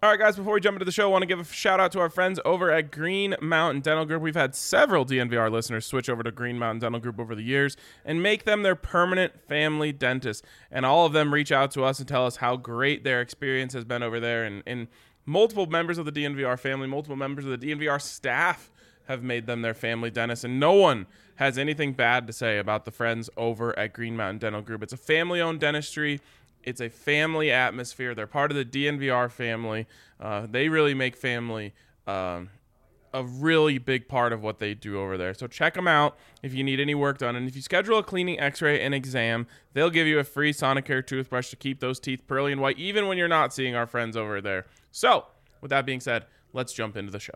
All right, guys, before we jump into the show, I want to give a shout out to our friends over at Green Mountain Dental Group. We've had several DNVR listeners switch over to Green Mountain Dental Group over the years and make them their permanent family dentist. And all of them reach out to us and tell us how great their experience has been over there. And multiple members of the DNVR family, multiple members of the DNVR staff have made them their family dentist. And no one has anything bad to say about the friends over at Green Mountain Dental Group. It's a family-owned dentistry. It's a family atmosphere. They're part of the DNVR family. They really make family a really big part of what they do over there. So check them out if you need any work done. And if you schedule a cleaning, x-ray, and exam, they'll give you a free Sonicare toothbrush to keep those teeth pearly and white, even when you're not seeing our friends over there. So with that being said, let's jump into the show.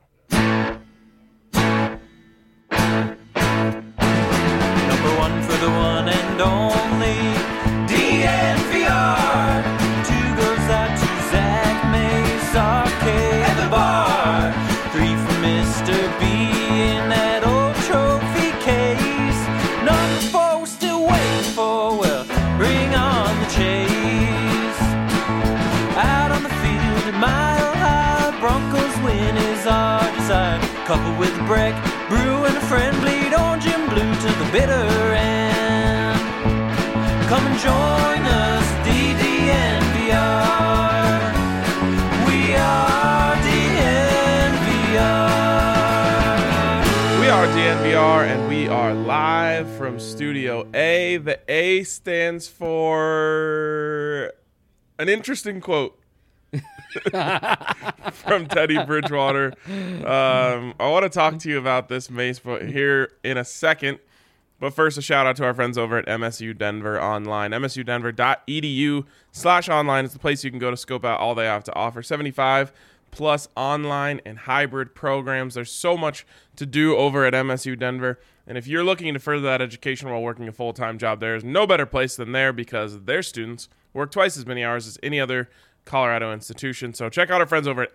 Number one for the one and only DNVR. Two goes out to Zach Mace, Arcade at the bar. Three for Mr. B in that old trophy case. Number four we're still waiting for, well, bring on the chase. Out on the field at Mile High, Broncos win is our desire. Coupled with Breck, Brew and a friend, bleed orange and blue to the bitter end. Come and join us, DNVR. We are DNVR. We are DNVR, and we are live from Studio A. The A stands for an interesting quote from Teddy Bridgewater. I want to talk to you about this, Mace, but here in a second. But first, a shout out to our friends over at MSU Denver Online. msudenver.edu/online is the place you can go to scope out all they have to offer. 75 plus online and hybrid programs. There's so much to do over at MSU Denver. And if you're looking to further that education while working a full-time job, there's no better place than there because their students work twice as many hours as any other Colorado institution. So check out our friends over at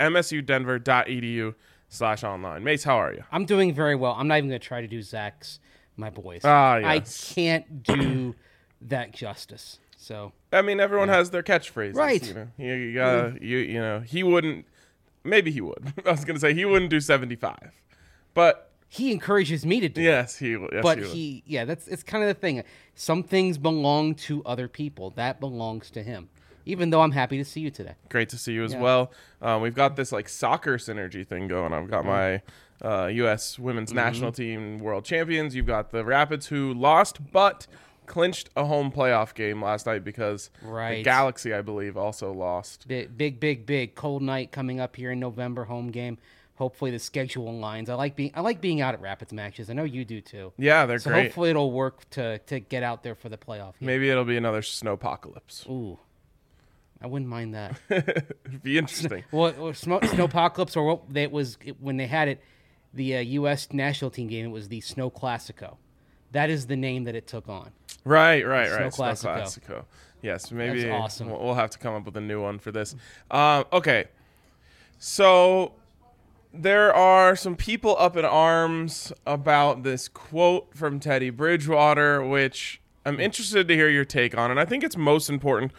msudenver.edu/online. Mace, how are you? I'm doing very well. I'm not even going to try to do Zach's, my boys. Yes. I can't do that justice. So I mean, everyone has their catchphrases, right? You know, you gotta, you know, he wouldn't. Maybe he would. I was gonna say he wouldn't do 75, but he encourages me to do. Yes, he would. Yes, but he yeah, it's kind of the thing. Some things belong to other people. That belongs to him. Even though I'm happy to see you today. Great to see you as well. We've got this like soccer synergy thing going. I've got my U.S. women's national team world champions. You've got the Rapids who lost but clinched a home playoff game last night because the Galaxy, I believe, also lost. Big cold night coming up here in November, home game. Hopefully the schedule aligns. I like being out at Rapids matches. I know you do too. Yeah, they're so great. Hopefully it'll work to get out there for the playoff game. Maybe it'll be another snowpocalypse. Ooh. I wouldn't mind that. It'd be interesting. Well, Snowpocalypse, or what it was when they had it, the U.S. national team game. It was the Snow Classico. That is the name that it took on. Right. Snow Snow Classico. Classico. Yes, maybe That's awesome. We'll have to come up with a new one for this. Okay, so there are some people up in arms about this quote from Teddy Bridgewater, which I'm interested to hear your take on, and I think it's most important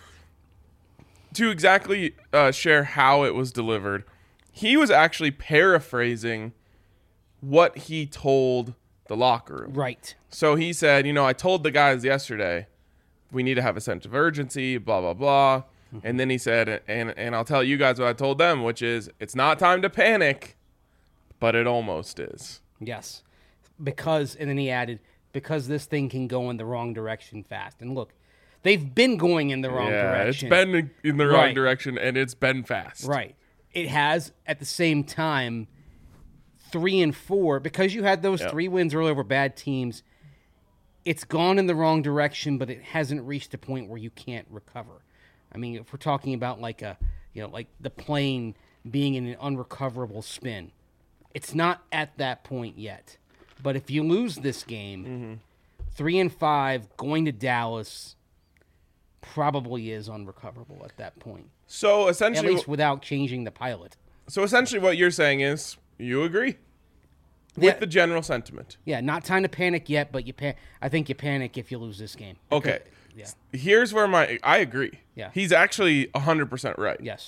to exactly share how it was delivered. He was actually paraphrasing what he told the locker room. Right. So he said, I told the guys yesterday, we need to have a sense of urgency, blah, blah, blah. Mm-hmm. And then he said, and I'll tell you guys what I told them, which is, it's not time to panic, but it almost is. Yes. And then he added, because this thing can go in the wrong direction fast. And look, they've been going in the wrong direction. It's been in the wrong direction, and it's been fast. Right. It has, at the same time, 3 and 4, because you had those 3 wins earlier over bad teams, it's gone in the wrong direction, but it hasn't reached a point where you can't recover. I mean, if we're talking about like the plane being in an unrecoverable spin, it's not at that point yet. But if you lose this game, 3 and 5, going to Dallas probably is unrecoverable at that point. So essentially, at least without changing the pilot. So essentially, what you're saying is you agree with the general sentiment. Yeah, not time to panic yet, but I think you panic if you lose this game. Okay. Yeah. Here's where I agree. Yeah. He's actually 100% right. Yes.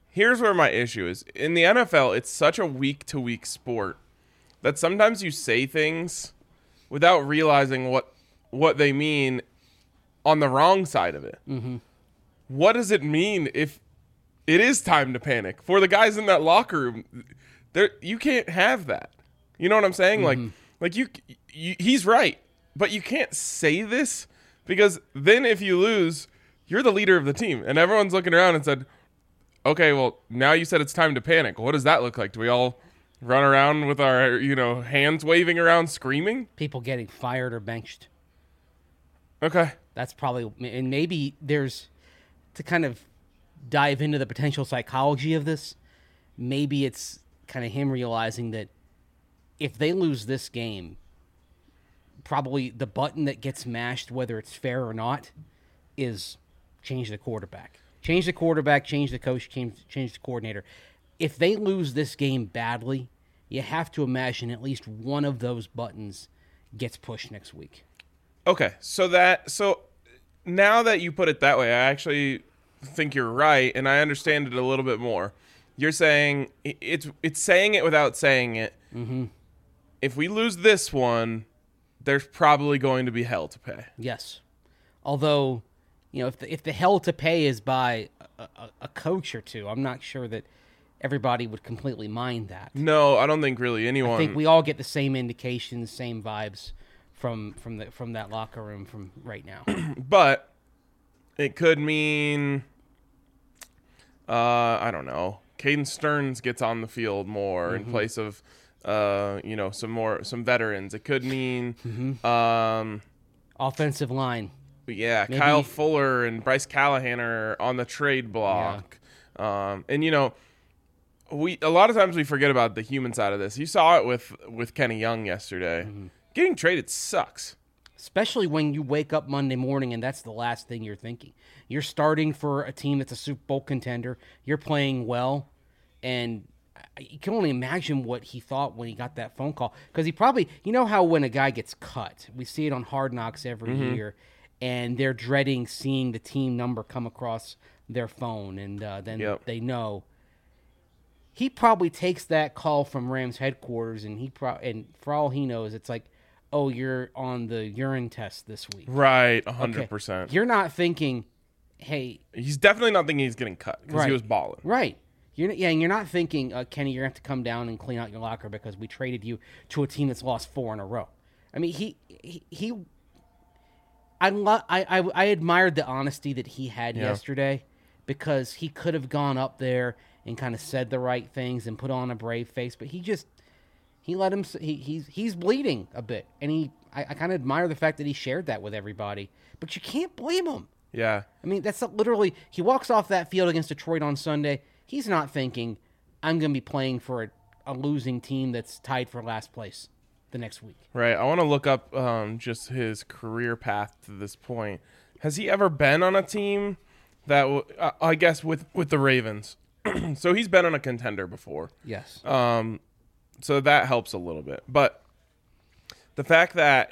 Here's where my issue is. In the NFL, it's such a week-to-week sport that sometimes you say things without realizing what they mean on the wrong side of it. Mm-hmm. What does it mean if it is time to panic? For the guys in that locker room, you can't have that. You know what I'm saying? Mm-hmm. Like you, he's right, but you can't say this because then if you lose, you're the leader of the team, and everyone's looking around and said, okay, well, now you said it's time to panic. What does that look like? Do we all run around with our, hands waving around screaming? People getting fired or benched. Okay. That's probably, and maybe there's, to kind of dive into the potential psychology of this, maybe it's kind of him realizing that if they lose this game, probably the button that gets mashed, whether it's fair or not, is change the quarterback. Change the quarterback, change the coach, change the coordinator. If they lose this game badly, you have to imagine at least one of those buttons gets pushed next week. Okay, so now that you put it that way, I actually think you're right, and I understand it a little bit more. You're saying it's saying it without saying it. Mm-hmm. If we lose this one, there's probably going to be hell to pay. Yes, although if the hell to pay is by a coach or two, I'm not sure that everybody would completely mind that. No, I don't think really anyone. I think we all get the same indications, same vibes from that locker room from right now. But it could mean, I don't know, Caden Stearns gets on the field more in place of, some veterans. It could mean, offensive line. Yeah, maybe. Kyle Fuller and Bryce Callahan are on the trade block. Yeah. A lot of times we forget about the human side of this. You saw it with Kenny Young yesterday. Mm-hmm. Getting traded sucks. Especially when you wake up Monday morning and that's the last thing you're thinking. You're starting for a team that's a Super Bowl contender. You're playing well. And you can only imagine what he thought when he got that phone call. Because he probably, how when a guy gets cut, we see it on Hard Knocks every year, and they're dreading seeing the team number come across their phone, and then they know. He probably takes that call from Rams headquarters, and and for all he knows, it's like, oh, you're on the urine test this week. Right, 100%. Okay. You're not thinking, hey. He's definitely not thinking he's getting cut because he was balling. Right. And you're not thinking, Kenny, you're going to have to come down and clean out your locker because we traded you to a team that's lost 4 in a row. I mean, I admired the honesty that he had yesterday, because he could have gone up there and kind of said the right things and put on a brave face, but he let him. He's bleeding a bit, and I kind of admire the fact that he shared that with everybody. But you can't blame him. Yeah, I mean, that's literally, he walks off that field against Detroit on Sunday. He's not thinking, I'm going to be playing for a losing team that's tied for last place the next week. Right. I want to look up just his career path to this point. Has he ever been on a team that, I guess, with the Ravens? So he's been on a contender before. Yes. So that helps a little bit. But the fact that,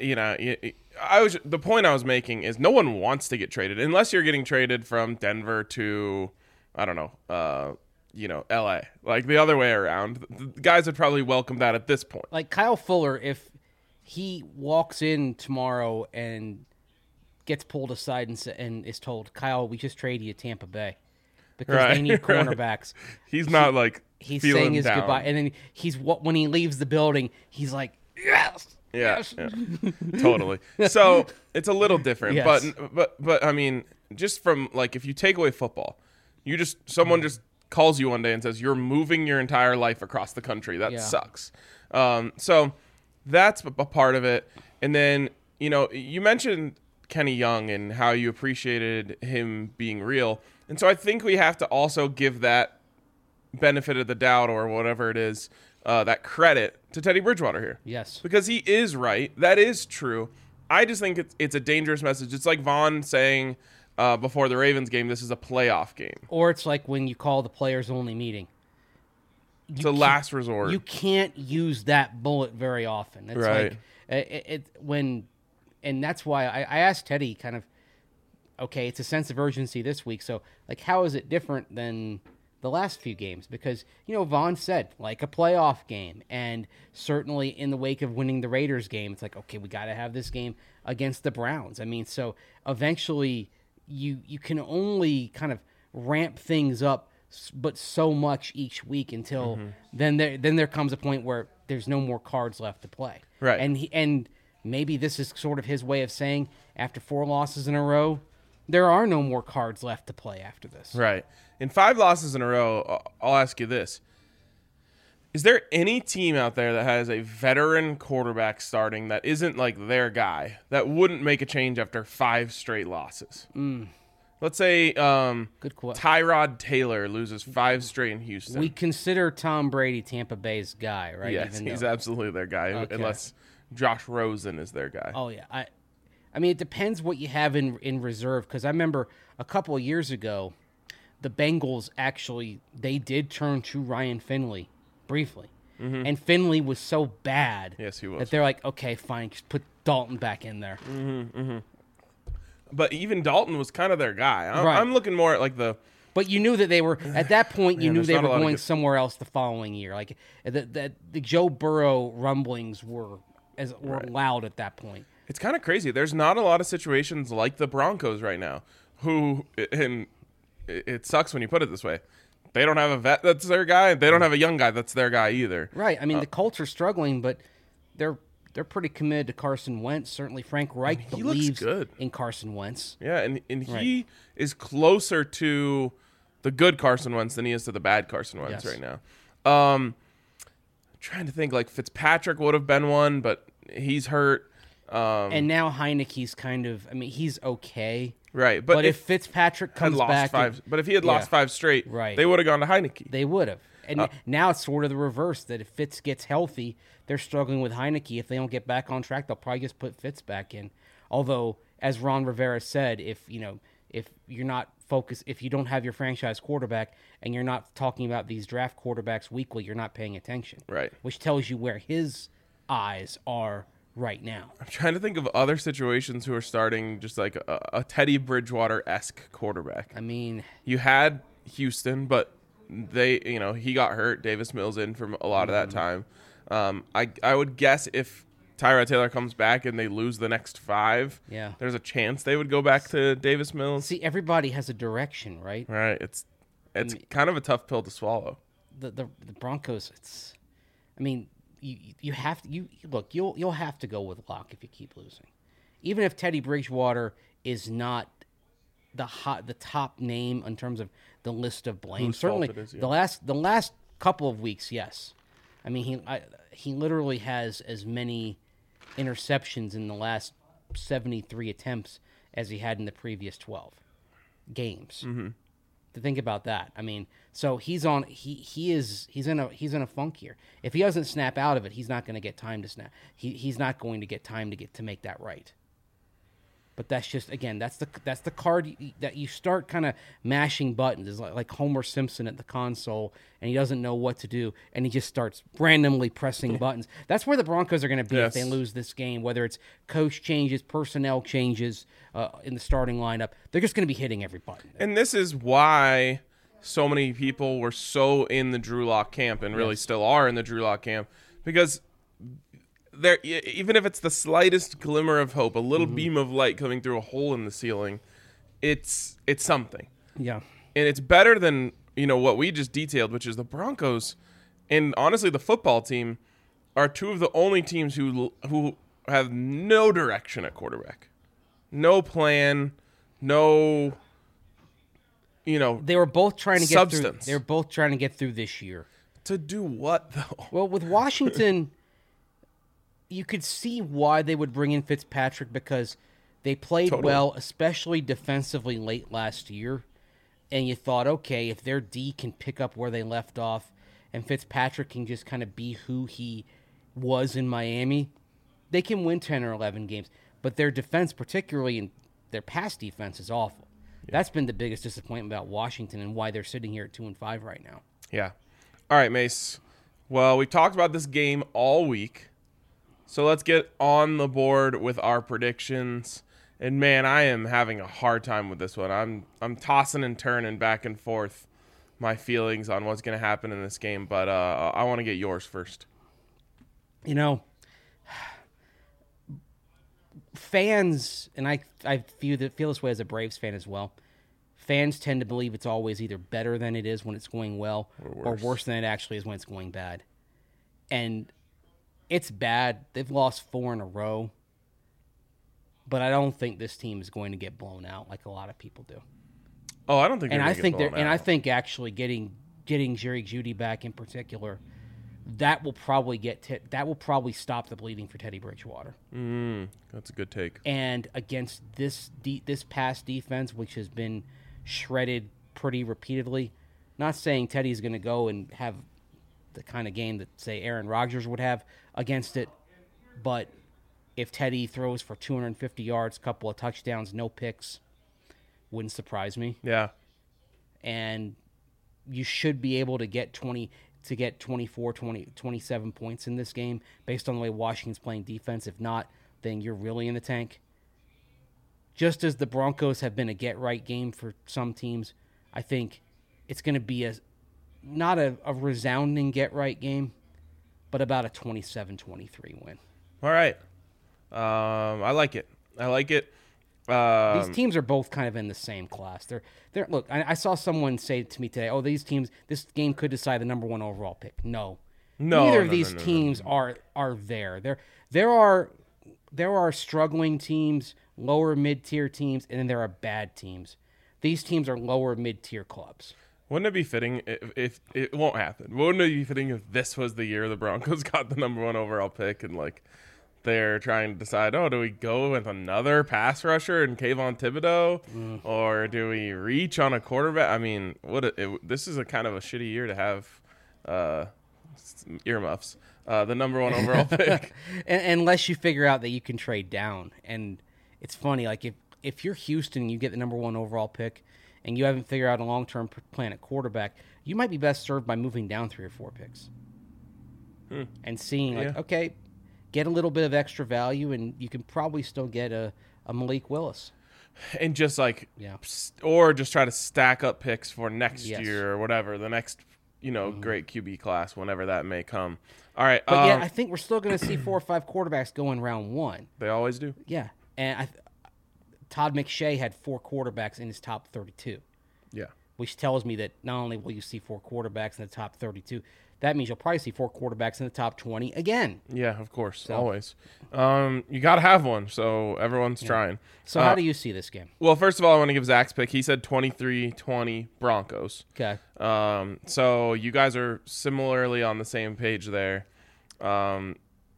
the point I was making is no one wants to get traded unless you're getting traded from Denver to, I don't know, LA. Like the other way around. The guys would probably welcome that at this point. Like Kyle Fuller, if he walks in tomorrow and gets pulled aside and is told, Kyle, we just traded you to Tampa Bay because they need cornerbacks. He's not like he's feeling saying his down. goodbye, and then when he leaves the building, he's like, yes. Yeah, totally. So it's a little different, Yes. but I mean, just from like if you take away football, someone just calls you one day and says you're moving your entire life across the country. That sucks. So that's a part of it. And then you mentioned Kenny Young and how you appreciated him being real, and so I think we have to also give that benefit of the doubt or whatever it is. That credit to Teddy Bridgewater here. Yes. Because he is right. That is true. I just think it's a dangerous message. It's like Vaughn saying before the Ravens game, this is a playoff game. Or it's like when you call the players-only meeting. It's a last resort. You can't use that bullet very often. It's right. Like and that's why I asked Teddy kind of, okay, it's a sense of urgency this week. So, like, how is it different than the last few games because, Vaughn said, like a playoff game. And certainly in the wake of winning the Raiders game, it's like, okay, we got to have this game against the Browns. I mean, so eventually you can only kind of ramp things up, but so much each week until then there comes a point where there's no more cards left to play. Right. And maybe this is sort of his way of saying after 4 losses in a row, there are no more cards left to play after this. Right. In 5 losses in a row, I'll ask you this. Is there any team out there that has a veteran quarterback starting that isn't like their guy that wouldn't make a change after 5 straight losses? Let's say Good question. Tyrod Taylor loses 5 straight in Houston. We consider Tom Brady Tampa Bay's guy, right? Yes, Even he's though- absolutely their guy, Okay. unless Josh Rosen is their guy. Oh, yeah. I mean, it depends what you have in reserve, because I remember a couple of years ago, the Bengals actually, they did turn to Ryan Finley briefly. And Finley was so bad Yes, he was. that they're like, okay, fine, just put Dalton back in there. But even Dalton was kind of their guy. Right. I'm looking more at like the... But you knew that they were, at that point, you knew there's they not were a lot of going good- somewhere else the following year. Like, the Joe Burrow rumblings were loud at that point. It's kind of crazy. There's not a lot of situations like the Broncos right now, and it sucks when you put it this way. They don't have a vet that's their guy. They don't have a young guy that's their guy either. Right. I mean, the Colts are struggling, but they're pretty committed to Carson Wentz. Certainly, Frank Reich he looks believes good. in Carson Wentz. Yeah, and Right. he is closer to the good Carson Wentz than he is to the bad Carson Wentz Yes. right now. Trying to think, like Fitzpatrick would have been one, but he's hurt. And now Heineke's kind of, I mean, he's okay. Right, But if Fitzpatrick had comes lost back, 5, but if he had lost 5 straight, Right. they would have gone to Heineke. they would have. And now it's sort of the reverse, that if Fitz gets healthy, they're struggling with Heineke. If they don't get back on track, they'll probably just put Fitz back in. Although, as Ron Rivera said, if you're not focused, if you don't have your franchise quarterback and you're not talking about these draft quarterbacks weekly, you're not paying attention. Right. Which tells you where his eyes are right now. I'm trying to think of other situations who are starting just like a Teddy Bridgewater-esque quarterback. I mean, You had Houston, but he got hurt. Davis Mills in for a lot of that time. I would guess if Tyrod Taylor comes back and they lose the next 5, Yeah. there's a chance they would go back to Davis Mills. see, everybody has a direction, right? Right. It's kind of a tough pill to swallow. The Broncos, I mean, you have to look, you'll have to go with Locke if you keep losing. Even if Teddy Bridgewater is not the top name in terms of the list of blame. Whose Certainly fault it is, yeah. the last couple of weeks, yes. I mean, he literally has as many interceptions in the last 73 attempts as he had in the previous 12 games. Mm-hmm. To think about that, I mean, so he's in a funk here. If he doesn't snap out of it, he's not going to get time to snap. He's not going to get time to make that right. But that's just, again, that's the card that you start kind of mashing buttons. It's like Homer Simpson at the console, and he doesn't know what to do, and he just starts randomly pressing buttons. That's where the Broncos are going to be if they Yes. lose this game, whether it's coach changes, personnel changes in the starting lineup. They're just going to be hitting every button. And this is why so many people were so in the Drew Lock camp and really still are in the Drew Lock camp, because there, even if it's the slightest glimmer of hope, a little beam of light coming through a hole in the ceiling, it's something. Yeah. And it's better than, what we just detailed, which is the Broncos and honestly the football team are two of the only teams who have no direction at quarterback. No plan, no They were both trying to get substance. through. They were both trying to get through this year. To do what though? Well, with Washington, you could see why they would bring in Fitzpatrick, because they played Totally. well, especially defensively late last year. And you thought, okay, if their D can pick up where they left off and Fitzpatrick can just kind of be who he was in Miami, they can win 10 or 11 games. But their defense, particularly in their pass defense, is awful. Yeah. That's been the biggest disappointment about Washington and why they're sitting here at 2-5 right now. Yeah. All right, Mace. Well, we talked about this game all week. So let's get on the board with our predictions. And man, I am having a hard time with this one. I'm tossing and turning back and forth my feelings on what's going to happen in this game, but I want to get yours first. Fans, and I feel this way as a Braves fan as well. Fans tend to believe it's always either better than it is when it's going well, or worse than it actually is when it's going bad. And it's bad. They've lost 4 in a row. But I don't think this team is going to get blown out like a lot of people do. Oh, I don't think. I think actually getting Jerry Jeudy back in particular, that will probably stop the bleeding for Teddy Bridgewater. That's a good take. And against this past defense, which has been shredded pretty repeatedly, not saying Teddy's going to go and have the kind of game that, say, Aaron Rodgers would have against it, but if Teddy throws for 250 yards, couple of touchdowns, no picks, wouldn't surprise me. Yeah. And you should be able to get 24, 27 points in this game based on the way Washington's playing defense. If not, then you're really in the tank. Just as the Broncos have been a get-right game for some teams, I think it's going to be not a resounding get-right game, but about a 27-23 win. All right. I like it. These teams are both kind of in the same class. They're look, I saw someone say to me today, these teams, this game could decide the number 1 overall pick. No. Neither of these teams are there. There are struggling teams, lower mid-tier teams, and then there are bad teams. These teams are lower mid-tier clubs. Wouldn't it be fitting if it won't happen? Wouldn't it be fitting if this was the year the Broncos got the number 1 overall pick and they're trying to decide, do we go with another pass rusher and Kayvon Thibodeau, or do we reach on a quarterback? I mean, this is a kind of a shitty year to have earmuffs. The number 1 overall pick, unless you figure out that you can trade down. And it's funny, like if you're Houston and you get the number 1 overall pick, and you haven't figured out a long-term plan at quarterback, you might be best served by moving down 3 or 4 picks and seeing okay, get a little bit of extra value, and you can probably still get a Malik Willis. And just or just try to stack up picks for next year or whatever, the next, great QB class, whenever that may come. All right. But I think we're still going to see 4 or 5 quarterbacks go in round 1. They always do. Yeah. And Todd McShay had 4 quarterbacks in his top 32. Yeah. Which tells me that not only will you see 4 quarterbacks in the top 32, that means you'll probably see 4 quarterbacks in the top 20 again. Yeah, of course, always. You got to have one, so everyone's trying. So how do you see this game? Well, first of all, I want to give Zach's pick. He said 23-20 Broncos. Okay. So you guys are similarly on the same page there. I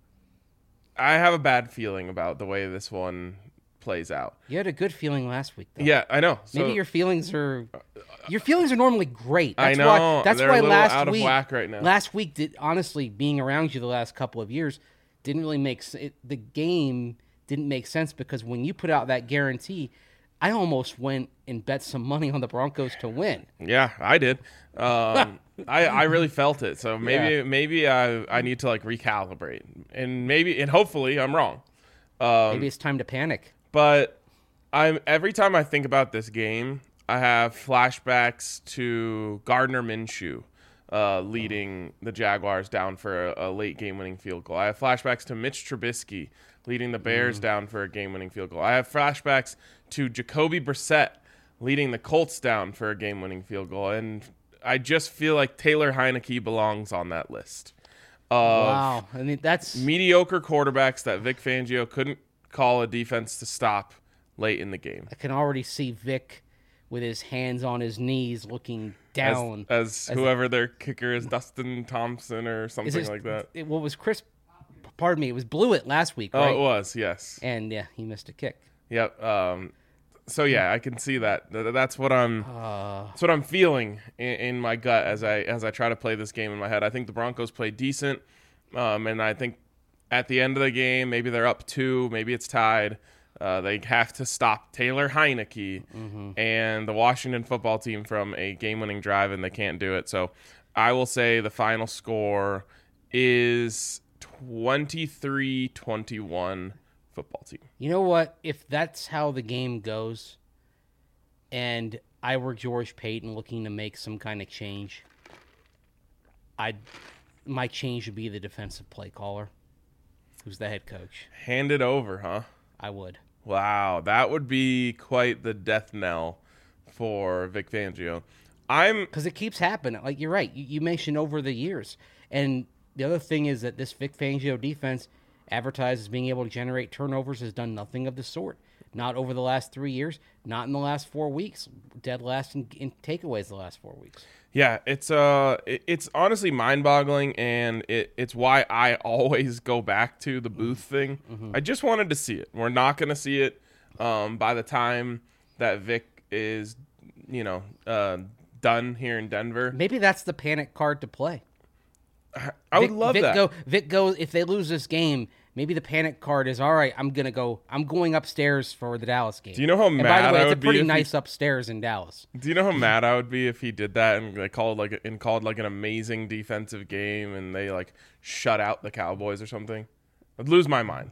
have a bad feeling about the way this one plays out. You had a good feeling last week, though. Yeah, I know. Maybe your feelings are normally great. That's I know. That's They're why a little last out week, of whack right now. Last week, honestly, being around you the last couple of years didn't really make sense. The game didn't make sense because when you put out that guarantee, I almost went and bet some money on the Broncos to win. Yeah, I did. I really felt it. So maybe I need to recalibrate, and hopefully I'm wrong. Maybe it's time to panic. But every time I think about this game, I have flashbacks to Gardner Minshew leading the Jaguars down for a late game-winning field goal. I have flashbacks to Mitch Trubisky leading the Bears down for a game-winning field goal. I have flashbacks to Jacoby Brissett leading the Colts down for a game-winning field goal. And I just feel like Taylor Heineke belongs on that list. Wow. I mean, that's mediocre quarterbacks that Vic Fangio couldn't call a defense to stop late in the game. I can already see Vic with his hands on his knees looking down. As whoever their kicker is, Dustin Thompson or something like that. What was Chris? Pardon me. It was Blewett last week, right? Oh, it was, yes. And, he missed a kick. Yep. So, I can see that. That's what I'm feeling in my gut as I try to play this game in my head. I think the Broncos play decent, and I think at the end of the game, maybe they're up 2, maybe it's tied. They have to stop Taylor Heineke and the Washington football team from a game-winning drive, and they can't do it. So I will say the final score is 23-21 football team. You know what? If that's how the game goes, and I were George Payton looking to make some kind of change, my change would be the defensive play caller, who's the head coach. Hand it over, huh? I would. Wow, that would be quite the death knell for Vic Fangio. Because it keeps happening. Like, you're right. You mentioned over the years. And the other thing is that this Vic Fangio defense advertises being able to generate turnovers has done nothing of the sort. Not over the last 3 years, not in the last 4 weeks. Dead last in takeaways the last 4 weeks. Yeah, it's honestly mind-boggling, and it's why I always go back to the booth thing. Mm-hmm. I just wanted to see it. We're not going to see it by the time that Vic is, done here in Denver. Maybe that's the panic card to play. I would love that. Vic goes, if they lose this game, maybe the panic card is, all right, I'm going upstairs for the Dallas game. Do you know how mad I would be? By the way, it's a pretty nice upstairs in Dallas. Do you know how mad I would be if he did that and they called an amazing defensive game and they shut out the Cowboys or something? I'd lose my mind.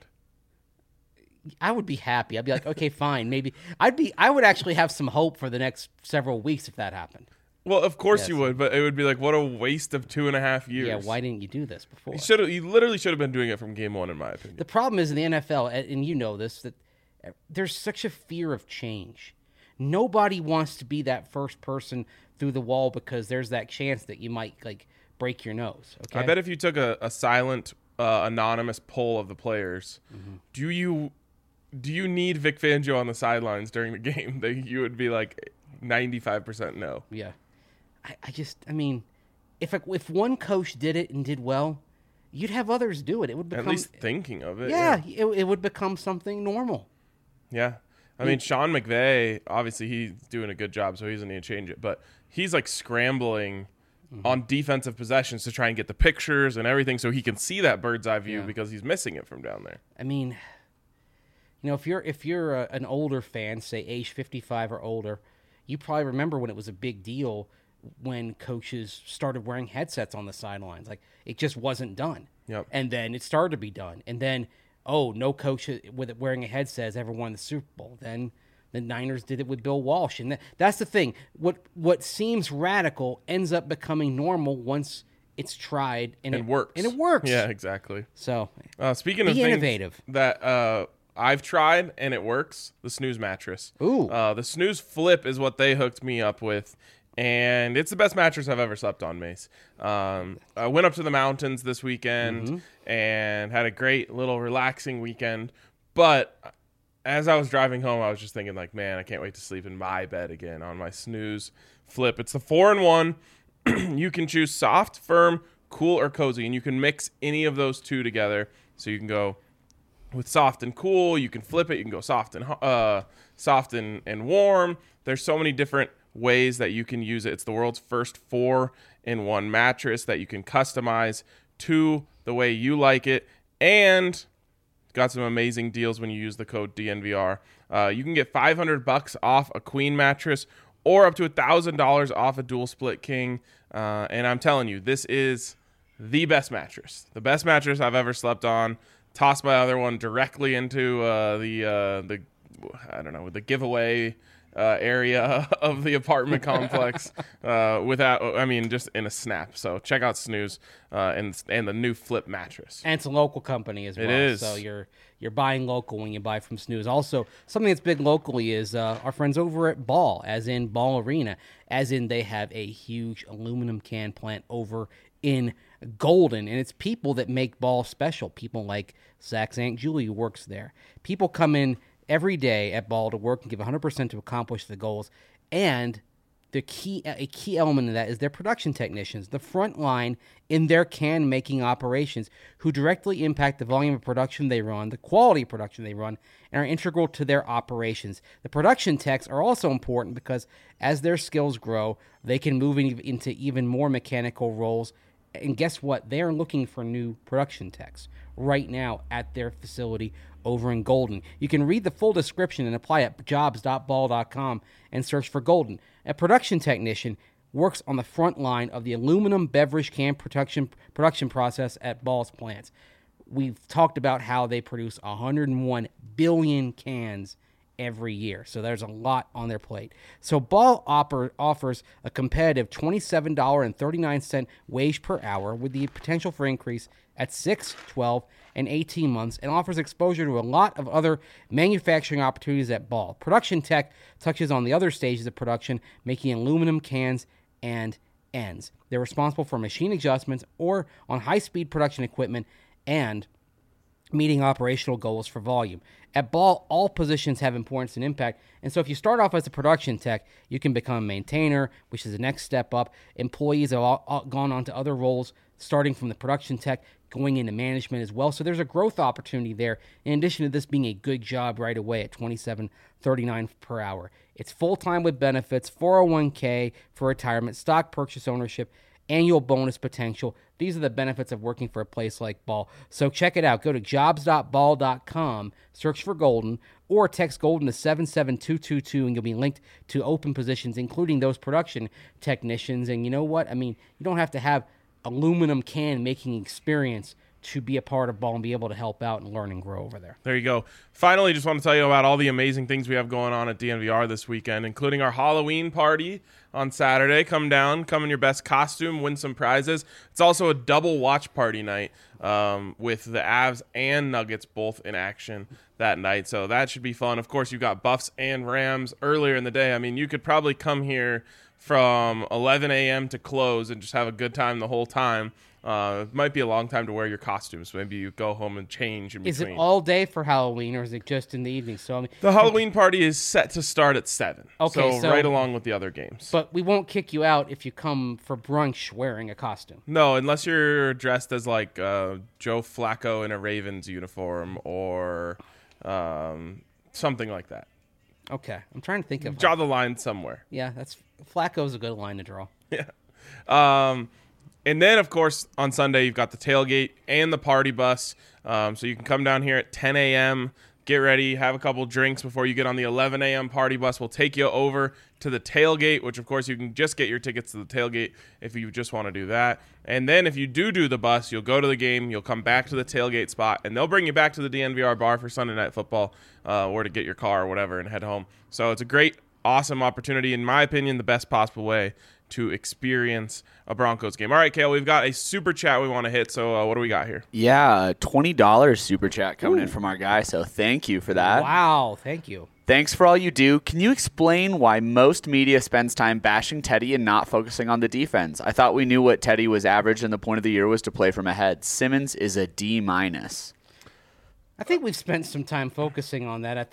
I would be happy. I'd be like, okay, fine, maybe. I would actually have some hope for the next several weeks if that happened. Well, of course you would, but it would be what a waste of 2.5 years. Yeah, why didn't you do this before? He literally should have been doing it from game one, in my opinion. The problem is in the NFL, and you know this, that there's such a fear of change. Nobody wants to be that first person through the wall because there's that chance that you might break your nose. Okay? I bet if you took a silent, anonymous poll of the players, mm-hmm. do you need Vic Fangio on the sidelines during the game? You would be 95% no. Yeah. I mean, if one coach did it and did well, you'd have others do it. It would become, at least thinking of it. Yeah. It would become something normal. Yeah. I mean, Sean McVay, obviously he's doing a good job, so he doesn't need to change it. But he's scrambling mm-hmm. on defensive possessions to try and get the pictures and everything so he can see that bird's eye view because he's missing it from down there. I mean, if you're an older fan, say age 55 or older, you probably remember when it was a big deal when coaches started wearing headsets on the sidelines. It just wasn't done. Yep. And then it started to be done. And then, no coach with it wearing a headset has ever won the Super Bowl. Then the Niners did it with Bill Walsh. And that's the thing. What seems radical ends up becoming normal once it's tried and it works. And it works. Yeah, exactly. So speaking of things innovative. That I've tried and it works, the Snooze mattress. Ooh. The Snooze Flip is what they hooked me up with. And it's the best mattress I've ever slept on, Mace. I went up to the mountains this weekend mm-hmm. and had a great little relaxing weekend. But as I was driving home, I was just thinking, man, I can't wait to sleep in my bed again on my Snooze Flip. It's the 4-in-1. You can choose soft, firm, cool, or cozy. And you can mix any of those two together. So you can go with soft and cool. You can flip it. You can go soft and warm. There's so many different ways that you can use it. It's the world's first 4-in-1 mattress that you can customize to the way you like it, and got some amazing deals when you use the code DNVR. You can get $500 off a queen mattress or up to $1,000 off a dual split king, and I'm telling you, this is the best mattress I've ever slept on. Tossed my other one directly into the giveaway area of the apartment complex just in a snap. So check out Snooze and the new Flip mattress. And it's a local company as well. It is. So you're buying local when you buy from Snooze. Also, something that's big locally is our friends over at Ball, as in Ball Arena, as in they have a huge aluminum can plant over in Golden, and it's people that make Ball special. People like Zach St. Julie, who works there. People come in every day at Ball to work and give 100% to accomplish the goals. And a key element of that is their production technicians, the front line in their can-making operations, who directly impact the volume of production they run, the quality of production they run, and are integral to their operations. The production techs are also important because as their skills grow, they can move into even more mechanical roles. And guess what? They're looking for new production techs right now at their facility over in Golden. You can read the full description and apply at jobs.ball.com and search for Golden. A production technician works on the front line of the aluminum beverage can production process at Ball's plants. We've talked about how they produce 101 billion cans every year. So there's a lot on their plate. So Ball offers a competitive $27.39 wage per hour with the potential for increase at 6, 12, and 18 months, and offers exposure to a lot of other manufacturing opportunities at Ball. Production Tech touches on the other stages of production, making aluminum cans and ends. They're responsible for machine adjustments or on high-speed production equipment and meeting operational goals for volume. At Ball, all positions have importance and impact, and so if you start off as a production tech, you can become a maintainer, which is the next step up. Employees have all gone on to other roles, starting from the production tech, going into management as well. So there's a growth opportunity there, in addition to this being a good job right away at $27.39 per hour. It's full-time with benefits, 401k for retirement, stock purchase ownership, annual bonus potential. These are the benefits of working for a place like Ball. So check it out. Go to jobs.ball.com, search for Golden, or text Golden to 77222, and you'll be linked to open positions, including those production technicians. And you know what? I mean, you don't have to have aluminum can making experience to be a part of Ball and be able to help out and learn and grow over there. There you go. Finally, just want to tell you about all the amazing things we have going on at DNVR this weekend, including our Halloween party on Saturday. Come down, come in your best costume, win some prizes. It's also a double watch party night with the Avs and Nuggets both in action that night. So that should be fun. Of course, you've got Buffs and Rams earlier in the day. I mean, you could probably come here from 11 a.m. to close and just have a good time the whole time. It might be a long time to wear your costumes. Maybe you go home and change in between. Is it all day for Halloween, or is it just in the evening? So I mean, the Halloween party is set to start at 7. Okay, so right along with the other games. But we won't kick you out if you come for brunch wearing a costume. No, unless you're dressed as like Joe Flacco in a Ravens uniform or something like that. Okay, I'm trying to think of. Draw the line somewhere. Yeah, Flacco's a good line to draw. Yeah. And then, of course, on Sunday, you've got the tailgate and the party bus. So you can come down here at 10 a.m., get ready, have a couple drinks before you get on the 11 a.m. party bus. We'll take you over to the tailgate, which, of course, you can just get your tickets to the tailgate if you just want to do that. And then if you do the bus, you'll go to the game, you'll come back to the tailgate spot, and they'll bring you back to the DNVR bar for Sunday Night Football or to get your car or whatever and head home. So it's a great, awesome opportunity. In my opinion, the best possible way to experience a Broncos game. All right, Kale, we've got a super chat we want to hit. So what do we got here? Yeah, $20 super chat coming in from our guy. So thank you for that. Wow, thank you. Thanks for all you do. Can you explain why most media spends time bashing Teddy and not focusing on the defense? I thought we knew what Teddy was average and the point of the year was to play from ahead. Simmons is a D-. I think we've spent some time focusing on that.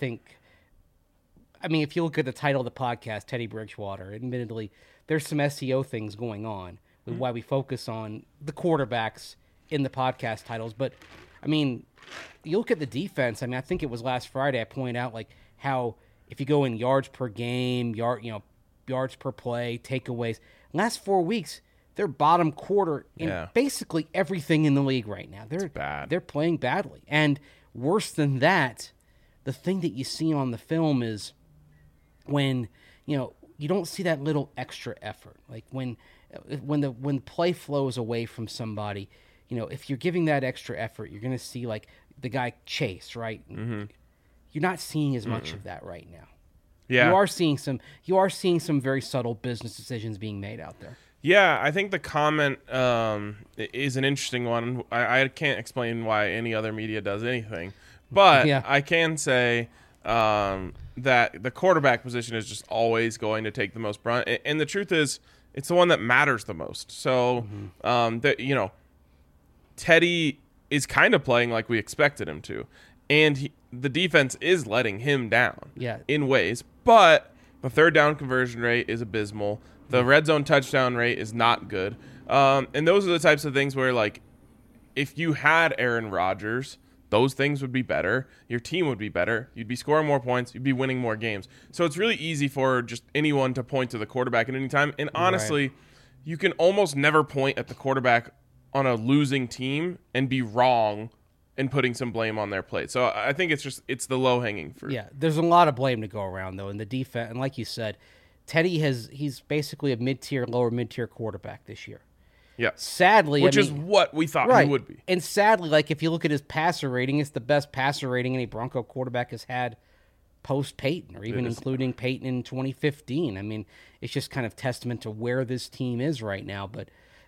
I mean, if you look at the title of the podcast, Teddy Bridgewater, admittedly, there's some SEO things going on with why we focus on the quarterbacks in the podcast titles. But, I mean, you look at the defense. I mean, I think it was last Friday I pointed out, like, how if you go in yards per game, yards per play, takeaways, last 4 weeks, they're bottom quarter in basically everything in the league right now. They're bad. They're playing badly. And worse than that, the thing that you see on the film is when, you don't see that little extra effort. Like when play flows away from somebody, if you're giving that extra effort, you're going to see like the guy Chase, right? Mm-hmm. You're not seeing as much of that right now. Yeah. You are seeing some very subtle business decisions being made out there. Yeah, I think the comment is an interesting one. I can't explain why any other media does anything, but I can say that the quarterback position is just always going to take the most brunt. And the truth is, it's the one that matters the most. So, Teddy is kind of playing like we expected him to. And the defense is letting him down in ways. But the third down conversion rate is abysmal. The red zone touchdown rate is not good. And those are the types of things where, like, if you had Aaron Rodgers, those things would be better. Your team would be better. You'd be scoring more points. You'd be winning more games. So it's really easy for just anyone to point to the quarterback at any time. And honestly, you can almost never point at the quarterback on a losing team and be wrong and putting some blame on their plate. So I think it's the low-hanging fruit. Yeah, there's a lot of blame to go around, though, in the defense. And like you said, Teddy he's basically a lower mid-tier quarterback this year. Yeah. Sadly, which is what we thought he would be. And sadly, like if you look at his passer rating, it's the best passer rating any Bronco quarterback has had post Peyton, or even including Peyton in 2015. I mean, it's just kind of testament to where this team is right now. But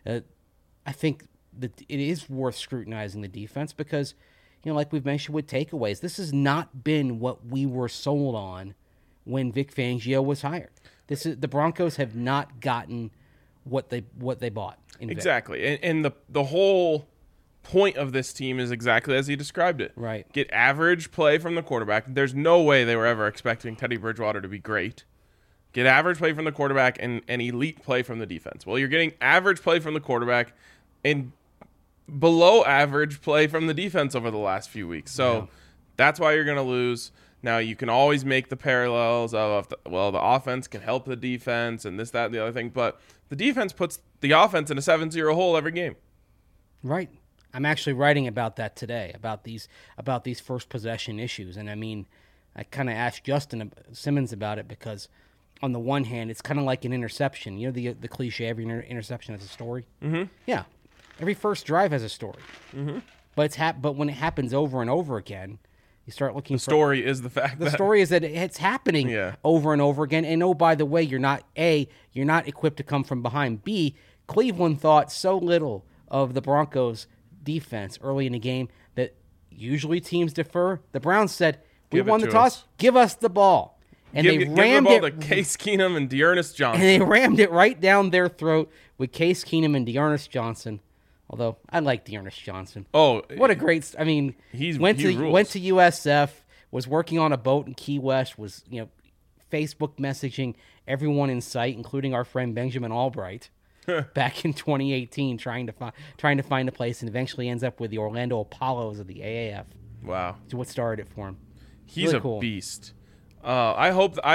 I think that it is worth scrutinizing the defense because, like we've mentioned with takeaways, this has not been what we were sold on when Vic Fangio was hired. The Broncos have not gotten what they bought. Exactly, and the whole point of this team is exactly as he described it. Right. Get average play from the quarterback. There's no way they were ever expecting Teddy Bridgewater to be great. Get average play from the quarterback and elite play from the defense. Well, you're getting average play from the quarterback and below average play from the defense over the last few weeks. So that's why you're going to lose. Now, you can always make the parallels of, the offense can help the defense and this, that, and the other thing. But the defense puts the offense in a 7-0 hole every game. Right. I'm actually writing about that today, about these first possession issues. And I mean, I kind of asked Justin Simmons about it because on the one hand, it's kind of like an interception. You know the cliche, every interception has a story? Mm-hmm. Yeah. Every first drive has a story. Mm-hmm. But when it happens over and over again, you start looking The story is the fact the story is that it's happening over and over again. And oh, by the way, you're not equipped to come from behind. B, Cleveland thought so little of the Broncos' defense early in the game that usually teams defer. The Browns said, "We won the toss. Give us the ball," and they rammed it to Case Keenum and Dearness Johnson. And they rammed it right down their throat with Case Keenum and Dearness Johnson. Although I like Dearness Johnson. Oh, what a great! I mean, he went to USF, was working on a boat in Key West, was Facebook messaging everyone in sight, including our friend Benjamin Albright. Back in 2018, trying to find a place, and eventually ends up with the Orlando Apollos of the AAF. Wow, It's what started it for him. He's really cool. Beast. I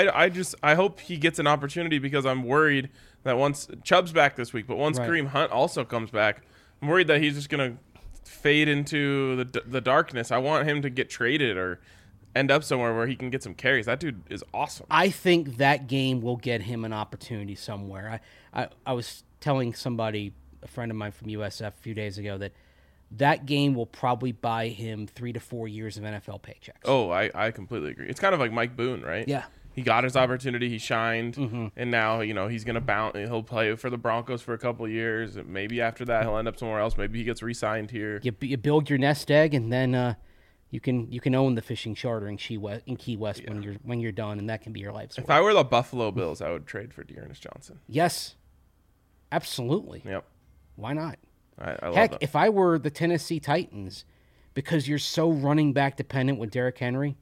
hope he gets an opportunity because I'm worried that once Chubb's back this week, but once Kareem Hunt also comes back, I'm worried that he's just gonna fade into the darkness. I want him to get traded or end up somewhere where he can get some carries. That dude is awesome. I think that game will get him an opportunity somewhere. I was telling somebody, a friend of mine from USF a few days ago, that game will probably buy him 3 to 4 years of NFL paychecks. Oh, I completely agree. It's kind of like Mike Boone, right? Yeah. He got his opportunity, he shined, and now he's going to bounce. He'll play for the Broncos for a couple of years. And maybe after that, he'll end up somewhere else. Maybe he gets re-signed here. You build your nest egg, and then you can own the fishing charter in Key West when you're done, and that can be your life's work. If I were the Buffalo Bills, I would trade for Dearness Johnson. Yes, absolutely. Yep. Why not? I love Heck, that. if I were the Tennessee Titans, because you're so running back dependent with Derrick Henry,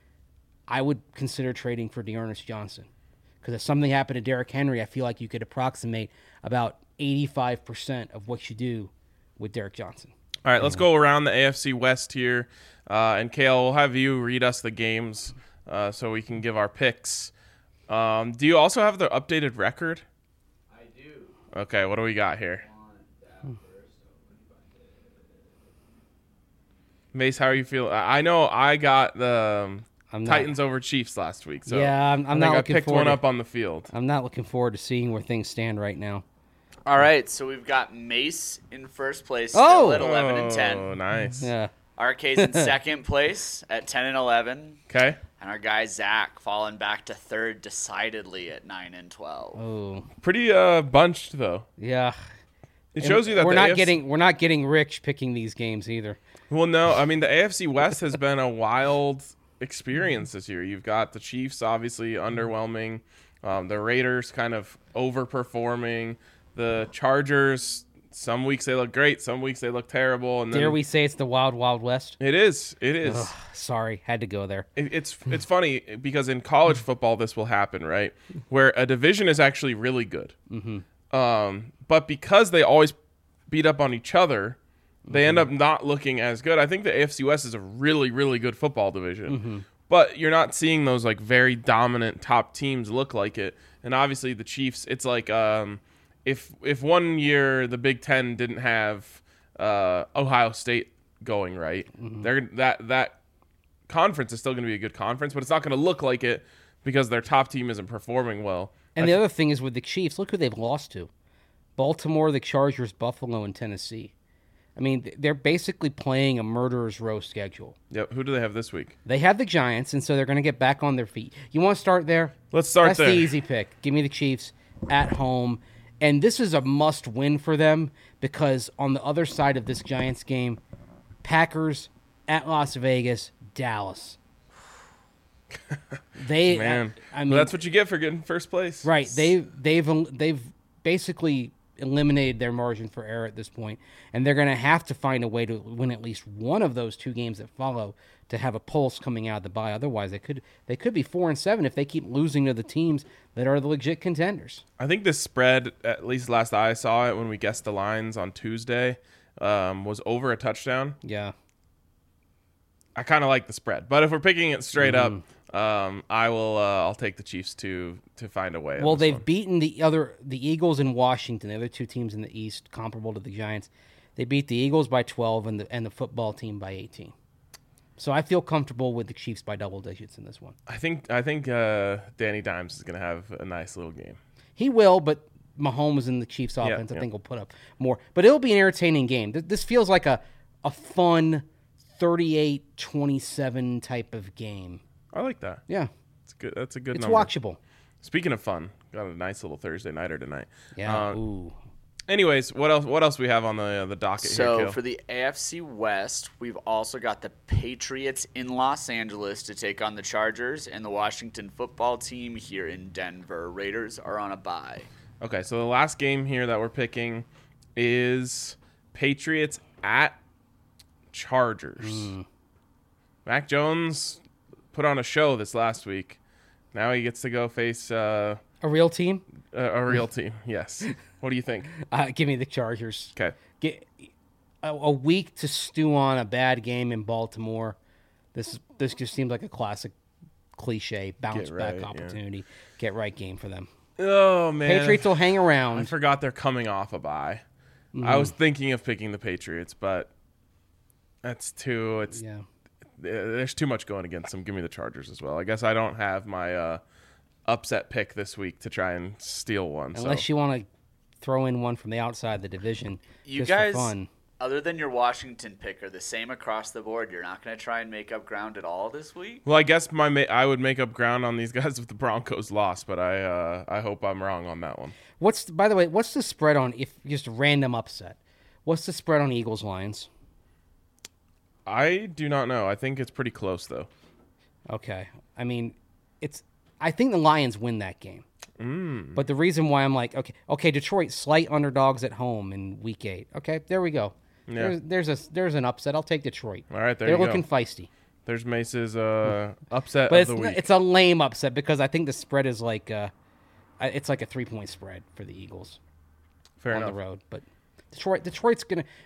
I would consider trading for Dearness Johnson. Because if something happened to Derrick Henry, I feel like you could approximate about 85% of what you do with Derrick Johnson. All right, let's go around the AFC West here. And Kale, we'll have you read us the games so we can give our picks. Do you also have the updated record? I do. Okay, what do we got here? Mace, how are you feeling? I know I got the Titans over Chiefs last week. So yeah, I'm not looking I picked one up on the field. I'm not looking forward to seeing where things stand right now. All right, so we've got Mace in first place still at 11 and 10. Oh, nice. Yeah. RK's in second place at 10 and 11. Okay. And our guy Zach falling back to third decidedly at 9 and 12. Oh. Pretty bunched though. Yeah. It shows you that we're not getting rich picking these games either. Well, no, I mean the AFC West has been a wild experience this year. You've got the Chiefs obviously underwhelming, the Raiders kind of overperforming, the Chargers. Some weeks they look great, some weeks they look terrible. And then, dare we say it's the Wild Wild West? It is. It is. Ugh, sorry, had to go there. It's funny because in college football this will happen, right? Where a division is actually really good, but because they always beat up on each other, they end up not looking as good. I think the AFC West is a really, really good football division, but you're not seeing those like very dominant top teams look like it. And obviously the Chiefs, it's like if 1 year the Big Ten didn't have Ohio State going right, that conference is still going to be a good conference, but it's not going to look like it because their top team isn't performing well. And the other thing is with the Chiefs, look who they've lost to: Baltimore, the Chargers, Buffalo, and Tennessee. I mean, they're basically playing a murderer's row schedule. Yep. Who do they have this week? They have the Giants, and so they're going to get back on their feet. You want to start there? Let's start That's there. the easy pick. Give me the Chiefs at home. And this is a must-win for them because on the other side of this Giants game, Packers at Las Vegas, Dallas. Man, I mean, well, that's what you get for getting first place. right. They've basically eliminated their margin for error at this point, and they're going to have to find a way to win at least one of those two games that follow to have a pulse coming out of the bye. Otherwise, they could be 4-7 if they keep losing to the teams that are the legit contenders. I think this spread, at least last I saw it when we guessed the lines on Tuesday, was over a touchdown. Yeah. I kind of like the spread, but if we're picking it straight up, I'll take the Chiefs to find a way. Well, they've beaten the Eagles and Washington, the other two teams in the East, comparable to the Giants. They beat the Eagles by 12 and the football team by 18. So I feel comfortable with the Chiefs by double digits in this one. I think Danny Dimes is going to have a nice little game. He will, but Mahomes and the Chiefs offense, I think, will put up more. But it'll be an entertaining game. This feels like a fun 38-27 type of game. I like that. Yeah. It's good. That's a good It's number. watchable. Speaking of fun, got a nice little Thursday nighter tonight. Yeah. Ooh. Anyways, what else we have on the docket here, So Kale? for the AFC West, we've also got the Patriots in Los Angeles to take on the Chargers, and the Washington football team here in Denver. Raiders are on a bye. Okay, so the last game here that we're picking is Patriots at Chargers. Mac Jones put on a show this last week. Now he gets to go face A real team? a real team. Yes. What do you think? Give me the Chargers. Okay. Get a week to stew on a bad game in Baltimore. This just seems like a classic cliche bounce Get right, back yeah. opportunity. Get right game for them. Oh man. Patriots will hang I around. forgot they're coming off a bye. I was thinking of picking the Patriots, but that's too. There's too much going against them. Give me the Chargers as well. I guess I don't have my upset pick this week to try and steal one. Unless you want to throw in one from the outside the division. You just guys, for fun. other than your Washington pick, are the same across the board. You're not going to try and make up ground at all this week? Well, I guess I would make up ground on these guys if the Broncos lost, but I hope I'm wrong on that one. By the way, what's the spread on, if just a random upset? What's the spread on Eagles Lions? I do not know. I think it's pretty close though. Okay. I mean, I think the Lions win that game. But the reason why I'm like, okay, Detroit slight underdogs at home in Week 8. Okay, there we go. Yeah. There's an upset. I'll take Detroit. All right, there They're you go. looking feisty. There's Mace's upset But of the week. it's a lame upset because I think the spread is like it's like a 3-point spread for the Eagles Fair on enough. the road. But Detroit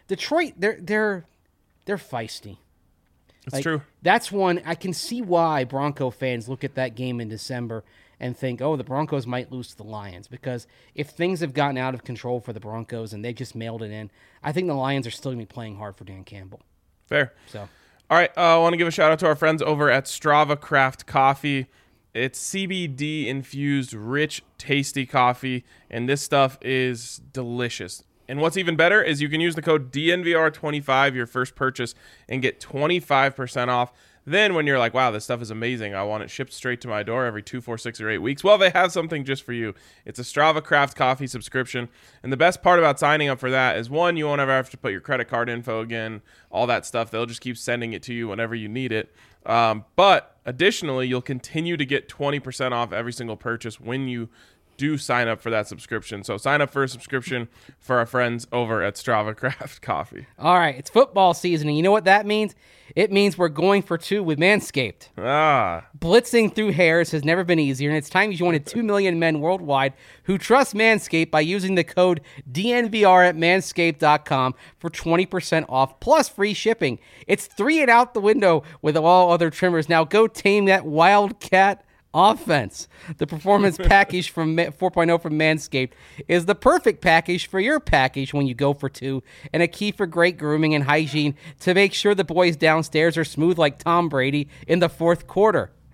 they're feisty. It's true. That's one I can see why Bronco fans look at that game in December and think, oh, the Broncos might lose to the Lions. Because if things have gotten out of control for the Broncos and they just mailed it in, I think the Lions are still going to be playing hard for Dan Campbell. Fair. So, All right, I want to give a shout out to our friends over at Strava Craft Coffee. It's CBD infused, rich, tasty coffee, and this stuff is delicious. And what's even better is you can use the code DNVR25 your first purchase and get 25% off. Then when you're like, wow, this stuff is amazing, I want it shipped straight to my door every 2, 4, 6, or 8 weeks, well, they have something just for you. It's a Strava Craft Coffee subscription. And the best part about signing up for that is, one, you won't ever have to put your credit card info again, all that stuff. They'll just keep sending it to you whenever you need it. But additionally, you'll continue to get 20% off every single purchase when you do sign up for that subscription. So sign up for a subscription for our friends over at Strava Craft Coffee. all right, it's football season, and you know what that means? It means we're going for 2 with Manscaped. Blitzing through hairs has never been easier, and it's time you join 2 million men worldwide who trust Manscaped by using the code DNVR at manscaped.com for 20% off plus free shipping. It's 3 and out the window with all other trimmers. Now go tame that Wildcat offense. The performance package from 4.0 from Manscaped is the perfect package for your package when you go for 2, and a key for great grooming and hygiene to make sure the boys downstairs are smooth like Tom Brady in the fourth quarter.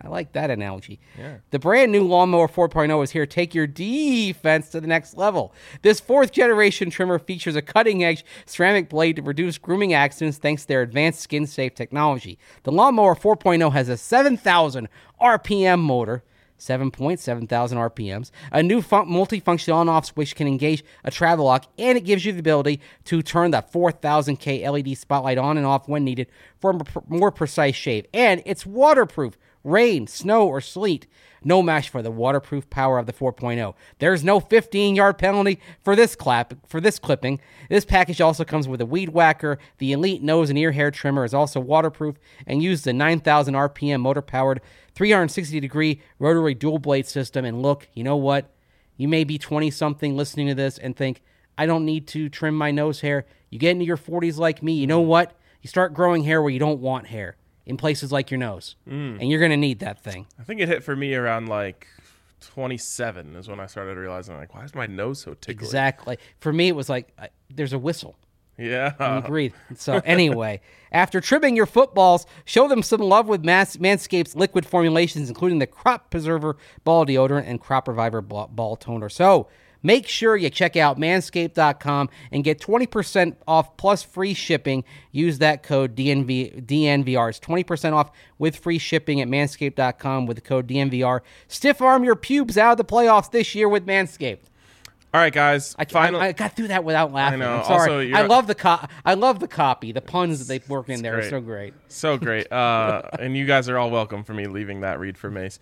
I like that analogy. Yeah. The brand new Lawnmower 4.0 is here to take your defense to the next level. This fourth generation trimmer features a cutting edge ceramic blade to reduce grooming accidents thanks to their advanced skin safe technology. The Lawnmower 4.0 has a 7,000 RPM motor. 7,700 RPMs, a new multifunction on-off switch can engage a travel lock, and it gives you the ability to turn the 4,000K LED spotlight on and off when needed for a more precise shave. And it's waterproof. Rain, snow, or sleet. No match for the waterproof power of the 4.0. There's no 15-yard penalty for this clipping. This package also comes with a weed whacker. The Elite nose and ear hair trimmer is also waterproof and uses a 9,000 RPM motor-powered 360-degree rotary dual-blade system. And look, you know what? You may be 20-something listening to this and think, I don't need to trim my nose hair. You get into your 40s like me, you know what? You start growing hair where you don't want hair. In places like your nose. And you're going to need that thing. I think it hit for me around like 27 is when I started realizing, like, why is my nose so tickly? Exactly. For me, it was like, there's a whistle. Yeah. When you breathe. So anyway, after trimming your footballs, show them some love with Manscaped's liquid formulations, including the Crop Preserver Ball Deodorant and Crop Reviver Ball Toner. So make sure you check out manscaped.com and get 20% off plus free shipping. Use that code DNVR. It's 20% off with free shipping at manscaped.com with the code DNVR. Stiff arm your pubes out of the playoffs this year with Manscaped. All right, guys. I got through that without laughing. I know. I'm sorry. Also, I love the copy. The puns that they work in there are great. so great. So great. And you guys are all welcome for me leaving that read for Mace.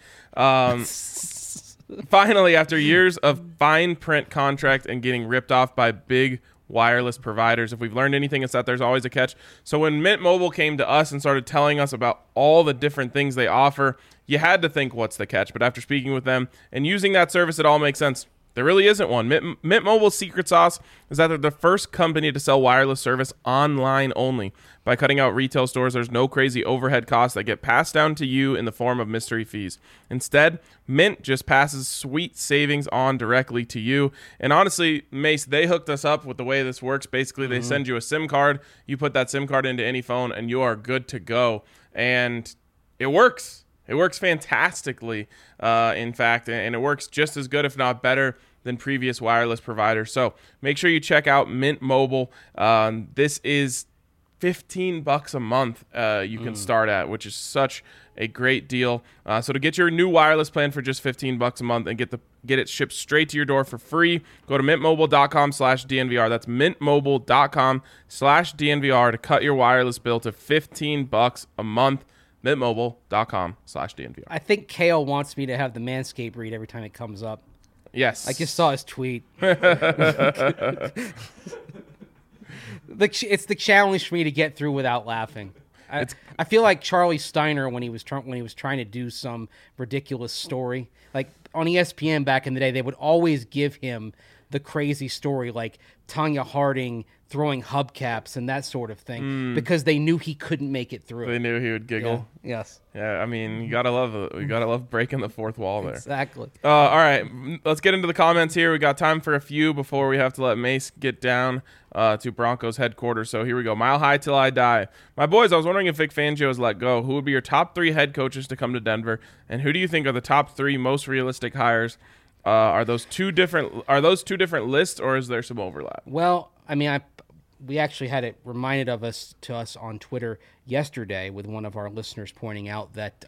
Finally, after years of fine print contract and getting ripped off by big wireless providers, if we've learned anything, it's that there's always a catch. So when Mint Mobile came to us and started telling us about all the different things they offer, you had to think, what's the catch? But after speaking with them and using that service, it all makes sense. There really isn't one. Mint Mobile's secret sauce is that they're the first company to sell wireless service online only. By cutting out retail stores, there's no crazy overhead costs that get passed down to you in the form of mystery fees. Instead, Mint just passes sweet savings on directly to you. And honestly, Mace, they hooked us up with the way this works. Basically, they send you a SIM card. You put that SIM card into any phone, and you are good to go. And it works. It works fantastically, in fact, and it works just as good, if not better, than previous wireless providers. So make sure you check out Mint Mobile. This is $15 a month you can start at, which is such a great deal. So to get your new wireless plan for just $15 a month and get it shipped straight to your door for free, go to mintmobile.com/DNVR. That's mintmobile.com/DNVR to cut your wireless bill to $15 a month. mintmobile.com/DNVR. I think Kale wants me to have the Manscaped read every time it comes up. Yes. I just saw his tweet. It's the challenge for me to get through without laughing. I feel like Charlie Steiner when he was trying to do some ridiculous story. Like on ESPN back in the day, they would always give him the crazy story, like Tanya Harding throwing hubcaps and that sort of thing, because they knew he couldn't make it through. They knew he would giggle. Yeah. Yes. Yeah, I mean, you gotta love it. You gotta love breaking the fourth wall there. Exactly. All right, let's get into the comments here. We got time for a few before we have to let Mace get down to Broncos headquarters. So here we go. Mile high till I die. My boys, I was wondering if Vic Fangio is let go. Who would be your top 3 head coaches to come to Denver, and who do you think are the top 3 most realistic hires? Are those two different lists, or is there some overlap? Well, I mean, we actually had it reminded to us on Twitter yesterday with one of our listeners pointing out that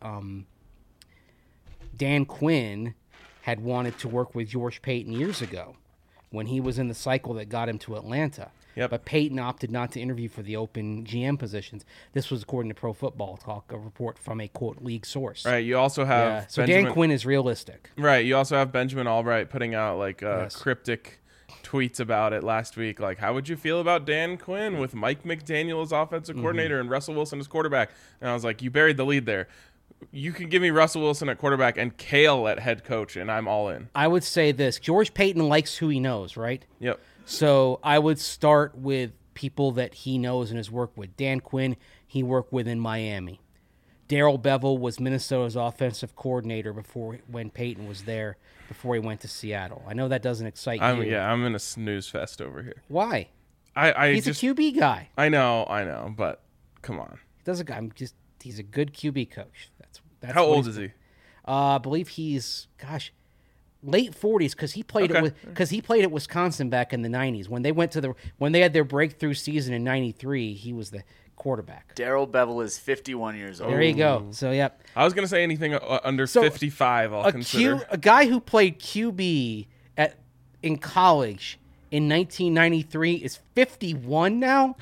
Dan Quinn had wanted to work with George Payton years ago when he was in the cycle that got him to Atlanta. Yep. But Payton opted not to interview for the open GM positions. This was according to Pro Football Talk, a report from a, quote, league source. Right, you also have so Dan Quinn is realistic. Right, you also have Benjamin Albright putting out like cryptic tweets about it last week. Like, how would you feel about Dan Quinn with Mike McDaniel as offensive coordinator and Russell Wilson as quarterback? And I was like, you buried the lead there. You can give me Russell Wilson at quarterback and Kale at head coach, and I'm all in. I would say this. George Payton likes who he knows, right? Yep. So I would start with people that he knows and has worked with. Dan Quinn, he worked with in Miami. Darrell Bevell was Minnesota's offensive coordinator when Payton was there, before he went to Seattle. I know that doesn't excite you. Yeah, I'm in a snooze fest over here. Why? He's a QB guy. I know, but come on. He's a good QB coach. That's how old is he? I believe he's late 40s because he played he played at Wisconsin back in the 90s when they had their breakthrough season in 93. He was the quarterback. Darrell Bevel is 51 years old. There you go. So yep. I was gonna say anything under 55. I'll consider. A guy who played QB in college in 1993 is 51 now.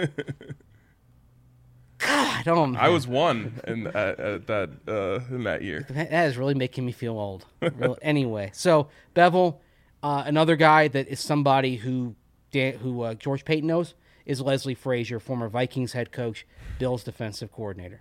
God, oh man. I was one in that year. That is really making me feel old. Anyway, so Bevel, another guy that is somebody who George Payton knows is Leslie Frazier, former Vikings head coach, Bills defensive coordinator.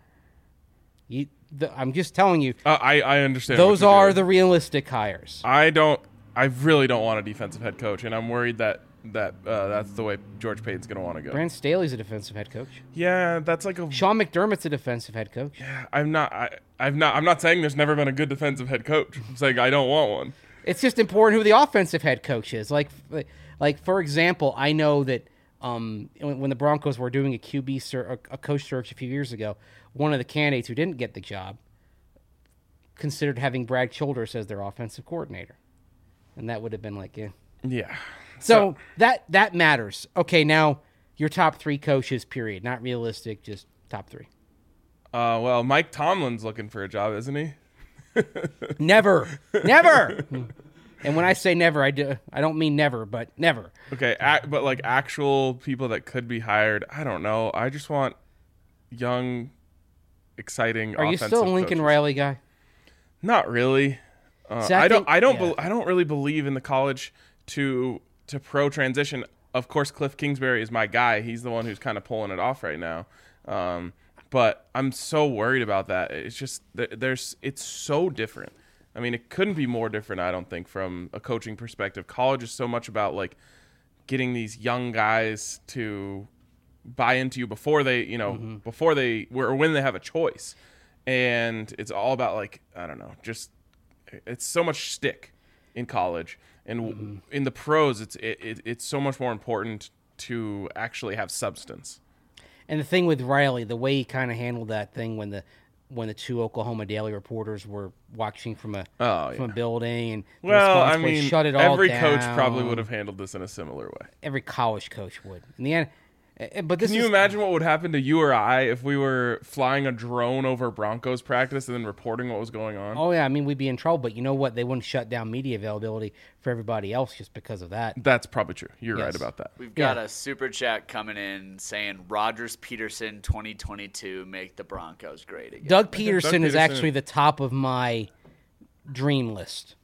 I'm just telling you. I understand. Those are the realistic hires. I really don't want a defensive head coach, and I'm worried that that's the way George Payton's going to want to go. Brandon Staley's a defensive head coach. Yeah, that's like a Sean McDermott's a defensive head coach. Yeah, I'm not saying there's never been a good defensive head coach. I'm saying I don't want one. It's just important who the offensive head coach is. Like for example, I know that when the Broncos were doing a coach search a few years ago, one of the candidates who didn't get the job considered having Brad Childress as their offensive coordinator, and that would have been like, yeah. So that matters. Okay, now your top 3 coaches, period. Not realistic, just top 3. Well, Mike Tomlin's looking for a job, isn't he? Never. And when I say never, I don't mean never, but never. Okay, but like actual people that could be hired, I don't know. I just want young, exciting. Are you still a Lincoln Riley guy? Not really. I don't really believe in the college to pro transition. Of course, Cliff Kingsbury is my guy. He's the one who's kind of pulling it off right now. But I'm so worried about that. It's just it's so different. I mean, it couldn't be more different, I don't think, from a coaching perspective. College is so much about like getting these young guys to buy into you before they, when they have a choice. And it's all about like, I don't know, just it's so much stick in college. And in the pros, it's so much more important to actually have substance. And the thing with Riley, the way he kind of handled that thing when the 2 Oklahoma Daily reporters were watching from a building, and shut it all down. Every coach probably would have handled this in a similar way. Every college coach would. In the end, but can you imagine what would happen to you or I if we were flying a drone over Broncos practice and then reporting what was going on? Oh yeah, I mean we'd be in trouble. But you know what? They wouldn't shut down media availability for everybody else just because of that. That's probably true. You're right about that. We've got a super chat coming in saying Rodgers Peterson 2022 make the Broncos great again. Doug Peterson is actually the top of my dream list.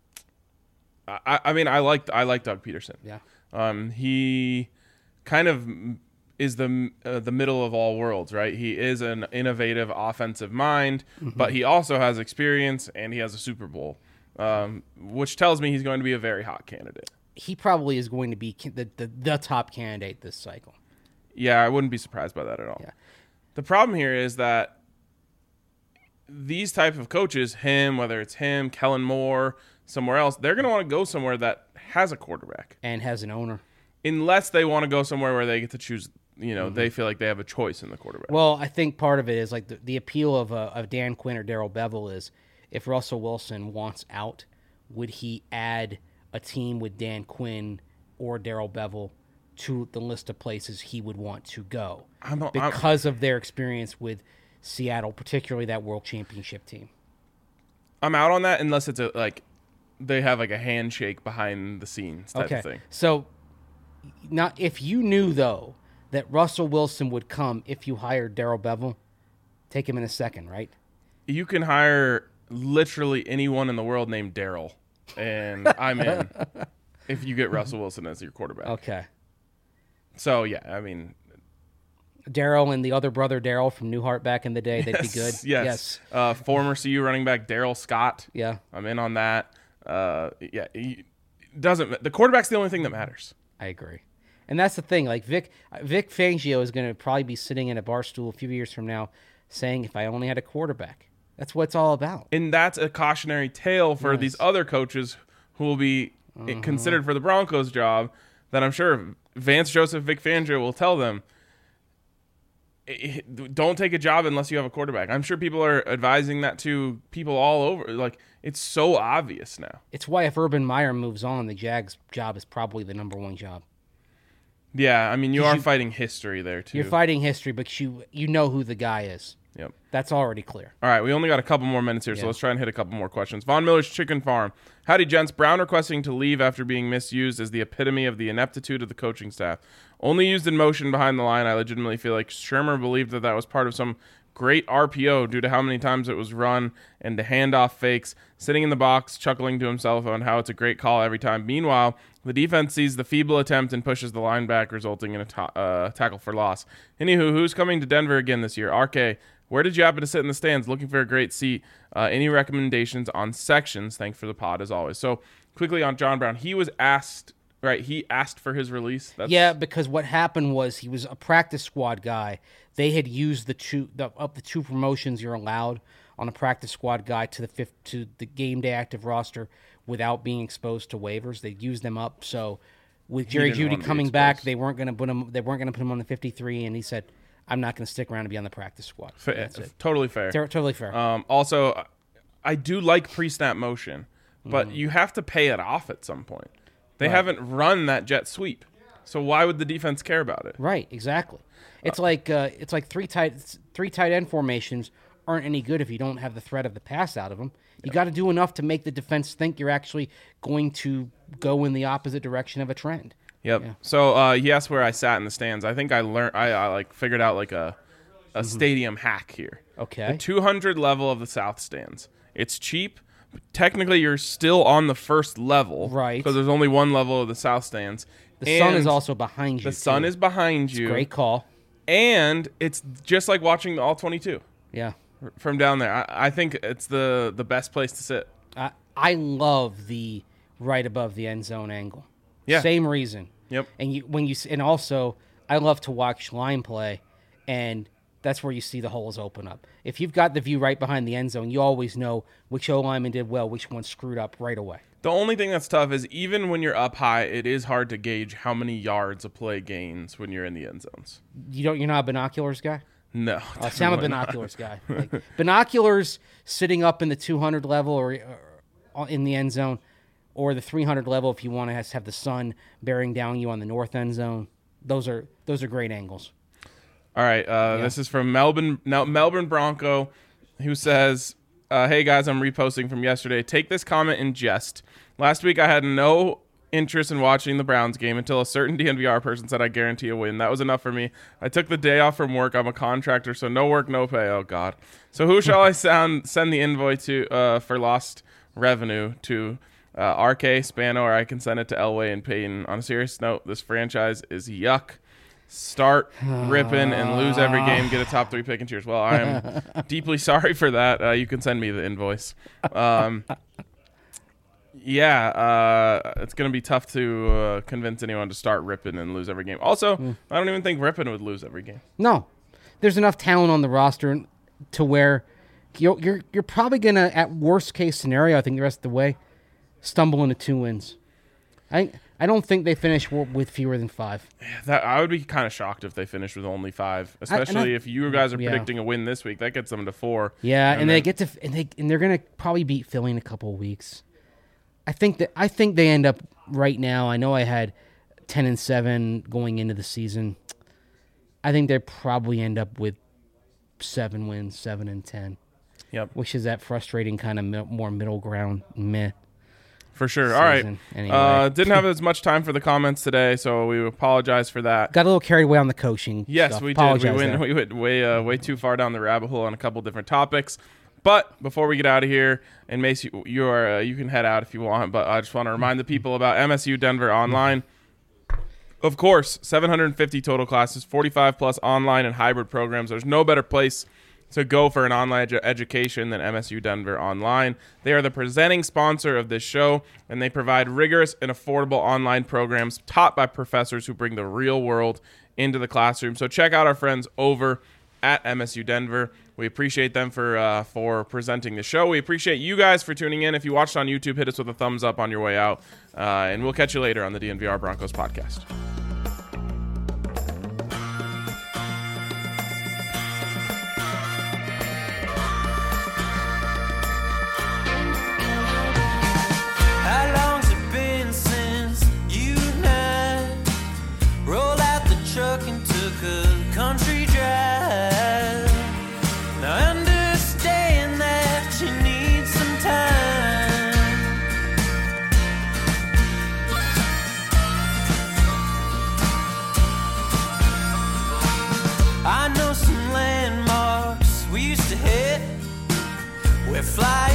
I mean I like Doug Peterson. Yeah. He kind of is the middle of all worlds, right? He is an innovative offensive mind, but he also has experience and he has a Super Bowl, which tells me he's going to be a very hot candidate. He probably is going to be the top candidate this cycle. Yeah, I wouldn't be surprised by that at all. Yeah. The problem here is that these type of coaches, whether it's him, Kellen Moore, somewhere else, they're going to want to go somewhere that has a quarterback. And has an owner. Unless they want to go somewhere where they get to choose, they feel like they have a choice in the quarterback. Well, I think part of it is like the appeal of Dan Quinn or Darrell Bevel is if Russell Wilson wants out, would he add a team with Dan Quinn or Darrell Bevel to the list of places he would want to go because of their experience with Seattle, particularly that World Championship team? I'm out on that unless it's they have like a handshake behind the scenes type of thing. So not if you knew though that Russell Wilson would come if you hired Darrell Bevel, take him in a second, right? You can hire literally anyone in the world named Darrell, and I'm in if you get Russell Wilson as your quarterback. Okay. So yeah, I mean, Darrell and the other brother Darrell from Newhart back in the day, they'd be good. Yes. Former CU running back Darrell Scott. Yeah. I'm in on that. The quarterback's the only thing that matters. I agree. And that's the thing. Like Vic Fangio is going to probably be sitting in a bar stool a few years from now saying, if I only had a quarterback. That's what it's all about. And that's a cautionary tale for these other coaches who will be considered for the Broncos job that I'm sure Vance Joseph, Vic Fangio will tell them, don't take a job unless you have a quarterback. I'm sure people are advising that to people all over. Like, it's so obvious now. It's why if Urban Meyer moves on, the Jags' job is probably the number one job. Yeah, I mean, you are fighting history there, too. You're fighting history, but you know who the guy is. Yep. That's already clear. All right, we only got a couple more minutes here, so let's try and hit a couple more questions. Von Miller's Chicken Farm. Howdy, gents. Brown requesting to leave after being misused is the epitome of the ineptitude of the coaching staff. Only used in motion behind the line, I legitimately feel like Shermer believed that was part of some great RPO due to how many times it was run and the handoff fakes, sitting in the box, chuckling to himself on how it's a great call every time. Meanwhile, the defense sees the feeble attempt and pushes the line back, resulting in a tackle for loss. Anywho, who's coming to Denver again this year? RK, where did you happen to sit in the stands? Looking for a great seat. Any recommendations on sections? Thanks for the pod, as always. So, quickly on John Brown, he was asked, right, he asked for his release? Yeah, because what happened was he was a practice squad guy. They had used the two promotions you're allowed on a practice squad guy to the game day active roster without being exposed to waivers. They used them up. So with Jerry Jeudy coming back, they weren't going to put him. They weren't going to put him on the 53, and he said, "I'm not going to stick around to be on the practice squad." That's it. Totally fair. Totally fair. Also, I do like pre-snap motion, but you have to pay it off at some point. They haven't run that jet sweep, so why would the defense care about it? Right, exactly. It's like three tight end formations aren't any good if you don't have the threat of the pass out of them. You got to do enough to make the defense think you're actually going to go in the opposite direction of a trend. Yep. Yeah. So he asked where I sat in the stands. I think I learned. I figured out like a stadium hack here. Okay. The 200 level of the South stands. It's cheap. Technically, you're still on the first level, right? Because there's only one level of the South stands. The sun is also behind you. The sun is behind you. Great call. And it's just like watching the All-22. Yeah. From down there, I think it's the best place to sit. I love the right above the end zone angle. Yeah. Same reason. Yep. And also I love to watch line play, and that's where you see the holes open up. If you've got the view right behind the end zone, you always know which O-lineman did well, which one screwed up right away. The only thing that's tough is even when you're up high, it is hard to gauge how many yards a play gains when you're in the end zones. You're not a binoculars guy? No. See, I'm a binoculars guy. Like, binoculars sitting up in the 200 level or in the end zone, or the 300 level if you want to have the sun bearing down you on the north end zone. Those are great angles. All right. This is from Melbourne Bronco, who says, hey, guys, I'm reposting from yesterday. Take this comment in jest. Last week, I had no interest in watching the Browns game until a certain DNVR person said I guarantee a win. That was enough for me. I took the day off from work. I'm a contractor, so no work, no pay. Oh, God. So who shall I send the invoice to for lost revenue to? RK, Spano, or I can send it to Elway and Payton. On a serious note, this franchise is yuck. Start ripping and lose every game, get a top 3 pick and cheers. Well, I am deeply sorry for that. You can send me the invoice. It's going to be tough to convince anyone to start ripping and lose every game. Also, I don't even think Rippin would lose every game. No. There's enough talent on the roster to where you're probably going to, at worst case scenario, I think the rest of the way, stumble into 2 wins. I don't think they finish with fewer than 5. I would be kind of shocked if they finished with only 5, especially if you guys are predicting a win this week. That gets them to 4. Yeah, and they get to and they're going to probably beat Philly in a couple of weeks. I think they end up right now. I know I had 10-7 going into the season. I think they probably end up with 7 wins, 7-10. Yep. Which is that frustrating kind of more middle ground meh. For sure. All right. Anyway. Didn't have as much time for the comments today, so we apologize for that. Got a little carried away on the coaching. Yes, stuff. We did. We went way too far down the rabbit hole on a couple different topics. But before we get out of here, and Mace, you can head out if you want, but I just want to remind the people about MSU Denver Online. Of course, 750 total classes, 45 plus online and hybrid programs. There's no better place to go for an online education than MSU Denver Online. They are the presenting sponsor of this show, and they provide rigorous and affordable online programs taught by professors who bring the real world into the classroom. So check out our friends over at MSU Denver. We appreciate them for presenting the show. We appreciate you guys for tuning in. If you watched on YouTube, hit us with a thumbs up on your way out, and we'll catch you later on the DNVR Broncos podcast. We're flying